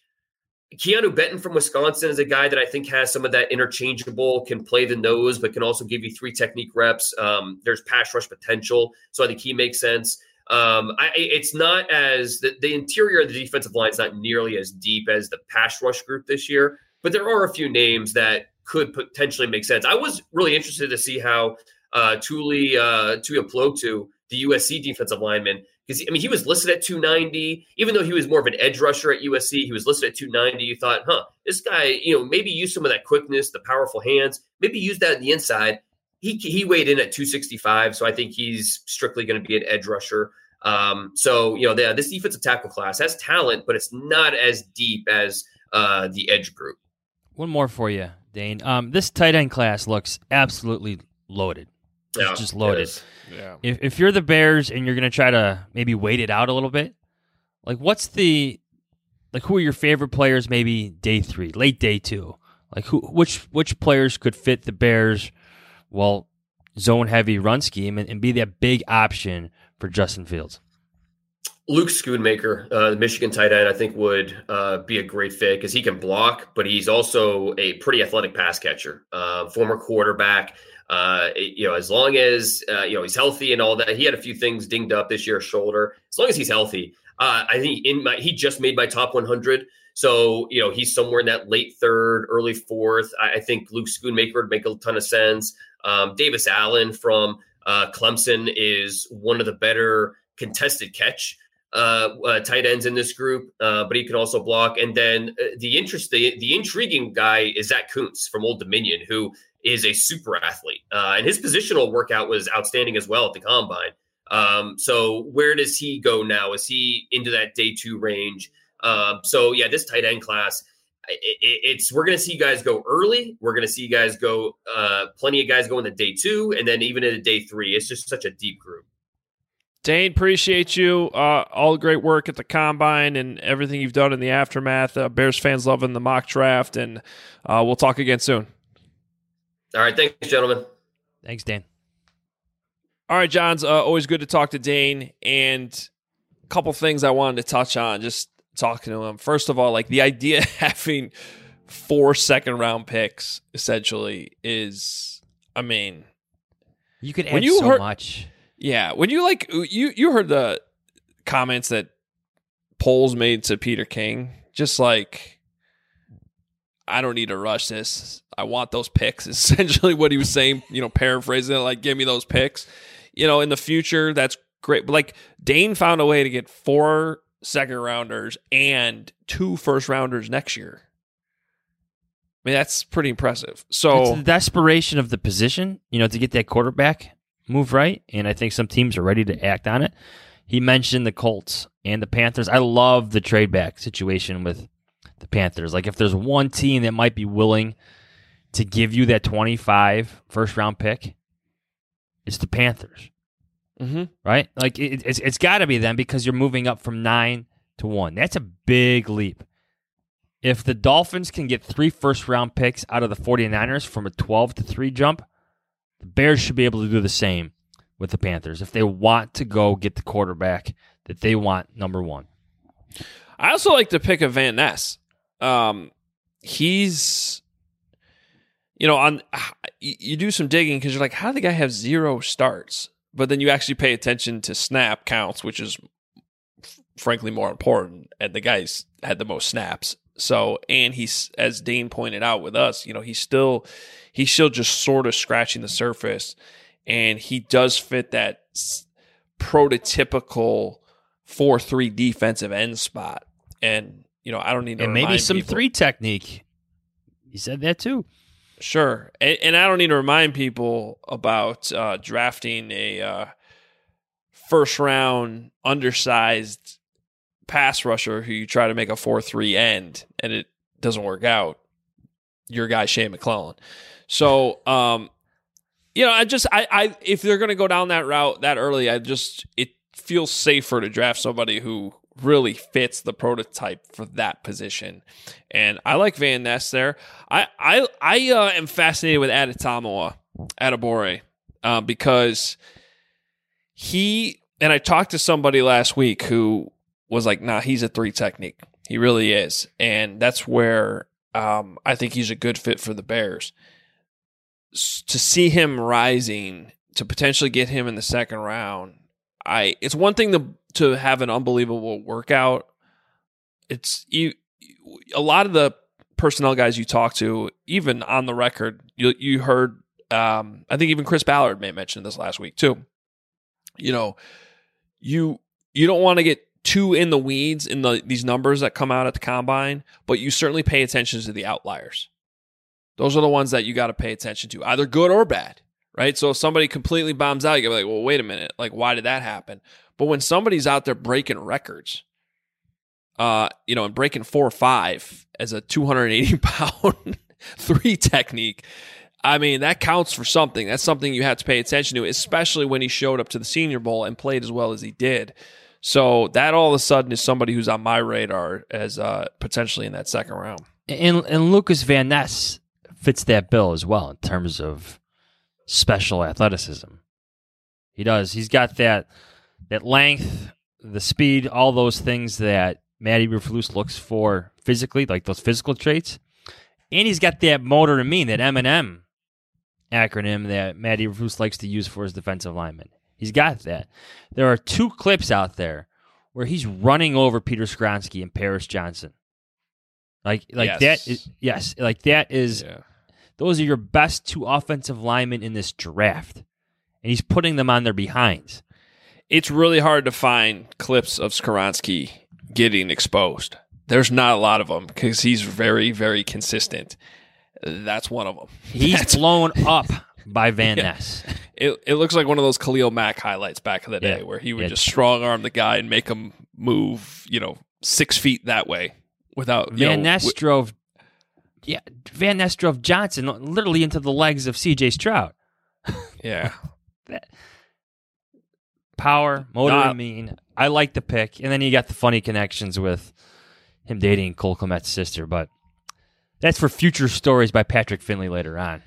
Keanu Benton from Wisconsin is a guy that I think has some of that interchangeable, can play the nose, but can also give you three technique reps. Um, there's pass rush potential. So I think he makes sense. Um, I, it's not as the, the interior of the defensive line is not nearly as deep as the pass rush group this year, but there are a few names that could potentially make sense. I was really interested to see how uh, Tuli uh, Tuipulotu, the U S C defensive lineman, because I mean he was listed at two ninety, even though he was more of an edge rusher at U S C. He was listed at two ninety. You thought, huh, this guy, you know, maybe use some of that quickness, the powerful hands, maybe use that on the inside. He he weighed in at two sixty-five, so I think he's strictly going to be an edge rusher. Um, so, you know, the, this defensive tackle class has talent, but it's not as deep as uh, the edge group. One more for you, Dane. Um, this tight end class looks absolutely loaded. It's Yeah, just loaded. it is. Yeah. If if you're the Bears and you're going to try to maybe wait it out a little bit, like what's the like who are your favorite players? Maybe day three, late day two. Like who which which players could fit the Bears? Well, zone heavy run scheme and, and be that big option for Justin Fields. Luke Schoonmaker, uh, the Michigan tight end, I think would uh, be a great fit because he can block, but he's also a pretty athletic pass catcher, uh, former quarterback. Uh, you know, as long as, uh, you know, he's healthy and all that, he had a few things dinged up this year, shoulder. As long as he's healthy, Uh, I think in my he just made my top one hundred. So, you know, he's somewhere in that late third, early fourth. I, I think Luke Schoonmaker would make a ton of sense. Um, Davis Allen from uh, Clemson is one of the better contested catch uh, uh, tight ends in this group, uh, but he can also block. And then uh, the interest, the, the intriguing guy is Zach Kuntz from Old Dominion, who is a super athlete. Uh, and his positional workout was outstanding as well at the combine. Um, so where does he go now? Is he into that day two range? Um, so yeah, this tight end class, it, it, it's, we're going to see guys go early. We're going to see guys go, uh, plenty of guys go into day two, and then even into day three. It's just such a deep group. Dane, appreciate you. Uh, all the great work at the combine and everything you've done in the aftermath. Uh, Bears fans loving the mock draft, and uh, we'll talk again soon. All right. Thanks, gentlemen. Thanks, Dan. All right, Johns, uh, always good to talk to Dane, and a couple things I wanted to touch on, just talking to him. First of all, like the idea of having four second round picks essentially is, I mean, you could add when you so heard, much. Yeah, when you like you you heard the comments that Poles made to Peter King, just like, I don't need to rush this. I want those picks. Essentially what he was saying, you know, paraphrasing it, like, give me those picks. You know, in the future, that's great. But like Dane found a way to get four second rounders and two first rounders next year. I mean, that's pretty impressive. So it's the desperation of the position, you know, to get that quarterback move right. And I think some teams are ready to act on it. He mentioned the Colts and the Panthers. I love the trade back situation with the Panthers. Like, if there's one team that might be willing to give you that twenty-five first round pick, it's the Panthers. Mm-hmm. Right? Like, it, it's it's got to be them, because you're moving up from nine to one. That's a big leap. If the Dolphins can get three first round picks out of the 49ers from a twelve to three jump, the Bears should be able to do the same with the Panthers if they want to go get the quarterback that they want, number one. I also like the pick of Van Ness. Um, he's, you know, on you do some digging because you're like, how did the guy have zero starts? But then you actually pay attention to snap counts, which is frankly more important. And the guy's had the most snaps. So, and he's, as Dane pointed out with us, you know, he's still, he's still just sort of scratching the surface, and he does fit that prototypical four three defensive end spot. And, you know, I don't need to and maybe some people. three technique. He said that too. Sure. And, and I don't need to remind people about uh, drafting a uh, first round undersized pass rusher who you try to make a four three end and it doesn't work out. Your guy, Shane McClellan. So, um, you know, I just, I, I, if they're going to go down that route that early, I just, it feels safer to draft somebody who really fits the prototype for that position. And I like Van Ness there. I, I, I uh, am fascinated with Adetomiwa Adebawore uh, because he, and I talked to somebody last week who was like, nah, he's a three technique. He really is. And that's where um, I think he's a good fit for the Bears. S- to see him rising, to potentially get him in the second round, I it's one thing to to have an unbelievable workout. It's you. A lot of the personnel guys you talk to, even on the record, you you heard. Um, I think even Chris Ballard may have mentioned this last week too. You know, you you don't want to get too in the weeds in the these numbers that come out at the combine, but you certainly pay attention to the outliers. Those are the ones that you got to pay attention to, either good or bad. Right? So if somebody completely bombs out, you gotta be like, well, wait a minute. Like, why did that happen? But when somebody's out there breaking records, uh, you know, and breaking four or five as a two hundred eighty pound three technique, I mean, that counts for something. That's something you have to pay attention to, especially when he showed up to the Senior Bowl and played as well as he did. So that all of a sudden is somebody who's on my radar as uh, potentially in that second round. And, and Lucas Van Ness fits that bill as well in terms of special athleticism. He does. He's got that that length, the speed, all those things that Matty Eberflus looks for physically, like those physical traits. And he's got that motor to mean, that M and M acronym that Matty Eberflus likes to use for his defensive linemen. He's got that. There are two clips out there. where he's running over Peter Skoronski and Paris Johnson. Like, like yes. that is yes, like that is. Yeah. Those are your best two offensive linemen in this draft, and he's putting them on their behinds. It's really hard to find clips of Skoronski getting exposed. There's not a lot of them because he's very, very consistent. That's one of them. He's That's, blown up by Van yeah. Ness. It it looks like one of those Khalil Mack highlights back in the day Yeah. where he would Yeah. just strong arm the guy and make him move, you know, six feet that way without you Van know, Ness wi- drove, yeah, Van Ness drove Johnson literally into the legs of C J Stroud. yeah. That, power, motor, Not- and mean. I like the pick, and then you got the funny connections with him dating Cole Kmet's sister, but that's for future stories by Patrick Finley later on.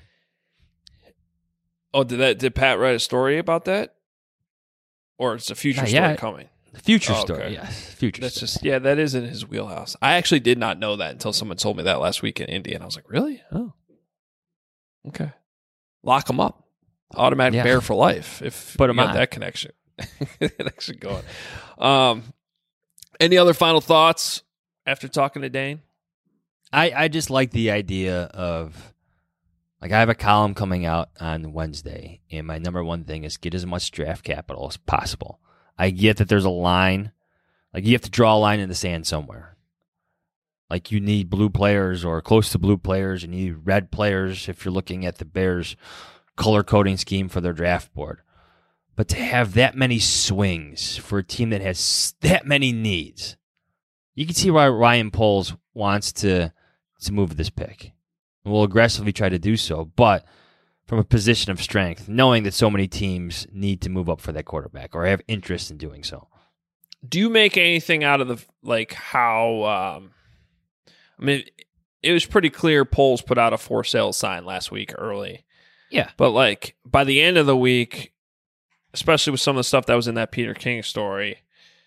Oh, did that did Pat write a story about that? Or it's a future Not story yet. coming? The future Oh, story, okay. yes, future. That's story. just yeah, that is in his wheelhouse. I actually did not know that until someone told me that last week in Indy, and I was like, really? Oh, okay. Lock him up, automatic Yeah. bear for life. If Put you him got on. that connection, connection going. Um, any other final thoughts after talking to Dane? I, I just like the idea of, like, I have a column coming out on Wednesday, and my number one thing is get as much draft capital as possible. I get that there's a line. Like, you have to draw a line in the sand somewhere. Like, you need blue players or close to blue players, and you need red players if you're looking at the Bears' color coding scheme for their draft board. But to have that many swings for a team that has that many needs, you can see why Ryan Poles wants to, to move this pick. And will aggressively try to do so, but from a position of strength, knowing that so many teams need to move up for that quarterback or have interest in doing so. Do you make anything out of the like how? Um, I mean, it was pretty clear. Poles put out a for sale sign last week early. Yeah. But like by the end of the week, especially with some of the stuff that was in that Peter King story,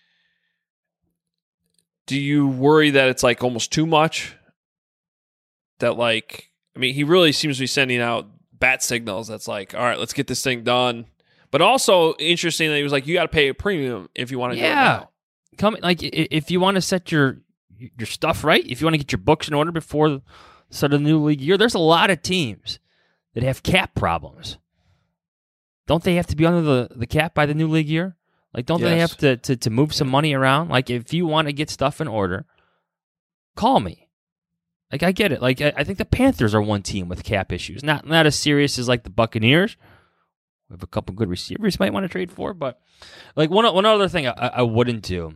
do you worry that it's like almost too much? That like, I mean, he really seems to be sending out bat signals. That's like, all right, let's get this thing done. But also interesting that he was like, you got to pay a premium if you want to do it Yeah. now. Come like i- if you want to set your your stuff right, if you want to get your books in order before the start of the new league year, there's a lot of teams that have cap problems. Don't they have to be under the, the cap by the new league year? Like, don't they Yes. have to, to to move some money around? Like, if you want to get stuff in order, call me. Like, I get it. Like, I, I think the Panthers are one team with cap issues. Not not as serious as like the Buccaneers. We have a couple good receivers you might want to trade for, but like one one other thing I, I wouldn't do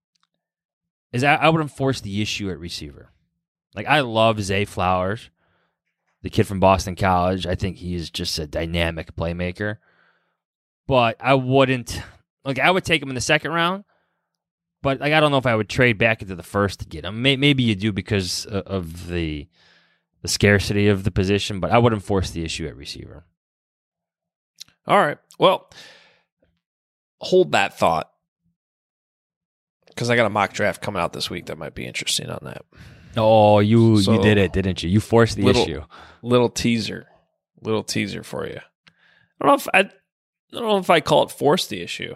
is I, I wouldn't force the issue at receiver. Like, I love Zay Flowers, the kid from Boston College. I think he is just a dynamic playmaker. But I wouldn't, like, I would take him in the second round, but like, I don't know if I would trade back into the first to get him. May, maybe you do because of the the scarcity of the position, but I wouldn't force the issue at receiver. All right. Well, hold that thought because I got a mock draft coming out this week that might be interesting on that. Oh, you So, you did it, didn't you? You forced the little, issue. Little teaser, little teaser for you. I don't know if I, I don't know if I call it force the issue,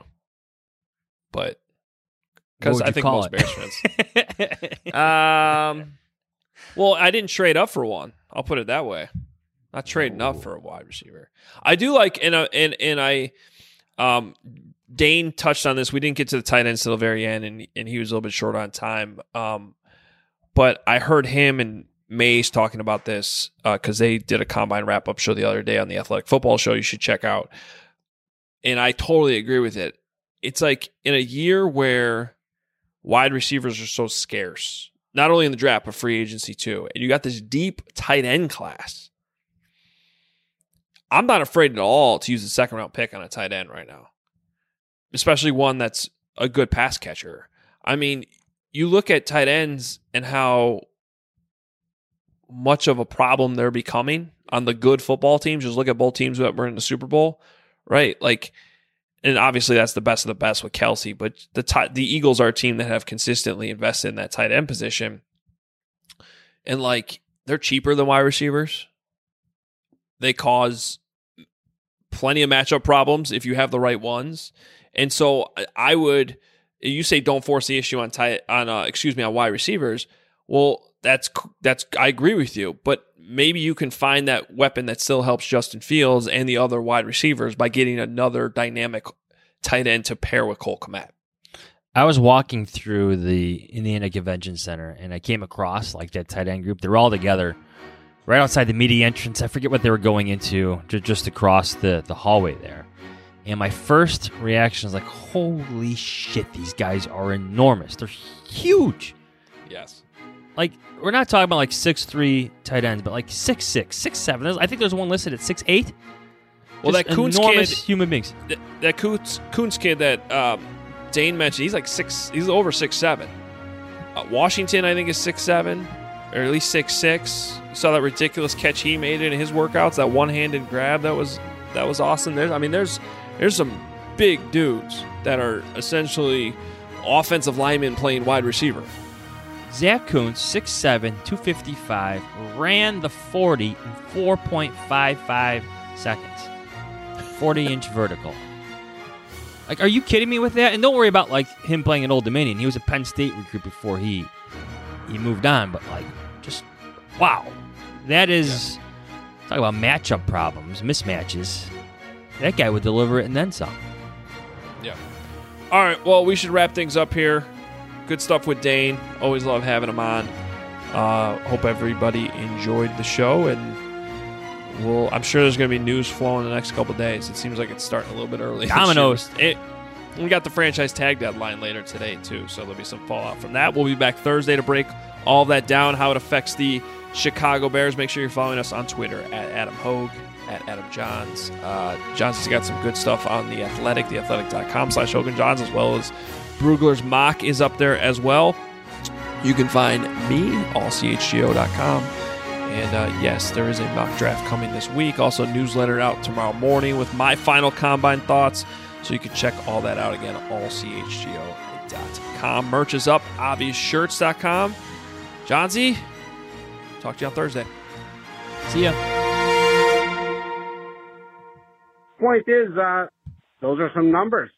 but because What would I you think call most it? Bears fans. um, well, I didn't trade up for one. I'll put it that way. Not trading up for a wide receiver. I do like, and uh, and and I, um, Dane touched on this. We didn't get to the tight ends till the very end, and and he was a little bit short on time. Um, but I heard him and Mays talking about this because uh, they did a combine wrap up show the other day on the Athletic Football Show. You should check out. And I totally agree with it. It's like in a year where wide receivers are so scarce, not only in the draft but free agency too, and you got this deep tight end class. I'm not afraid at all to use the second round pick on a tight end right now, especially one that's a good pass catcher. I mean, you look at tight ends and how much of a problem they're becoming on the good football teams. Just look at both teams that were in the Super Bowl, right? Like, and obviously that's the best of the best with Kelsey, but the t- the Eagles are a team that have consistently invested in that tight end position. And like, they're cheaper than wide receivers. They cause plenty of matchup problems if you have the right ones. And so I would, you say don't force the issue on tight on uh, excuse me on wide receivers. Well, that's that's I agree with you, but maybe you can find that weapon that still helps Justin Fields and the other wide receivers by getting another dynamic tight end to pair with Cole Kmet. I was walking through the Indiana Convention Center, and I came across like that tight end group. They're all together right outside the media entrance. I forget what they were going into, just across the, the hallway there. And my first reaction was like, holy shit, these guys are enormous. They're huge. Yes. Like, we're not talking about like six three tight ends, but like six six, six seven. There's, I think there's one listed at six eight. Well, Just that Kuntz enormous kid, human beings. That, that Kuntz, Kuntz kid that um, Dane mentioned, he's like six, he's over six seven. Uh, Washington, I think, is six seven, or at least six six. You saw that ridiculous catch he made in his workouts, that one-handed grab that was that was awesome. There's, I mean, there's there's some big dudes that are essentially offensive linemen playing wide receiver. Zach Kuntz, six seven, two fifty-five, ran the forty in four point five five seconds. forty-inch vertical. Like, are you kidding me with that? And don't worry about, like, him playing at Old Dominion. He was a Penn State recruit before he he moved on. But, like, just, wow. That is, yeah. Talk about matchup problems, mismatches. That guy would deliver it and then some. Yeah. All right, well, we should wrap things up here. Good stuff with Dane. Always love having him on. Uh, hope everybody enjoyed the show, and we'll, I'm sure there's going to be news flowing in the next couple of days. It seems like it's starting a little bit early. Dominoes. It, we got the franchise tag deadline later today, too, so there'll be some fallout from that. We'll be back Thursday to break all of that down, how it affects the Chicago Bears. Make sure you're following us on Twitter at Adam Hogue, at Adam Johns. Uh, Johns has got some good stuff on The Athletic, theathletic.com slash Hogan Johns, as well as Brugler's Mock is up there as well. You can find me, all C H G O dot com. And uh, yes, there is a mock draft coming this week. Also, newsletter out tomorrow morning with my final combine thoughts. So you can check all that out again, all C H G O dot com. Merch is up, obvious shirts dot com. Johnsy, talk to you on Thursday. See ya. Point is, uh, those are some numbers.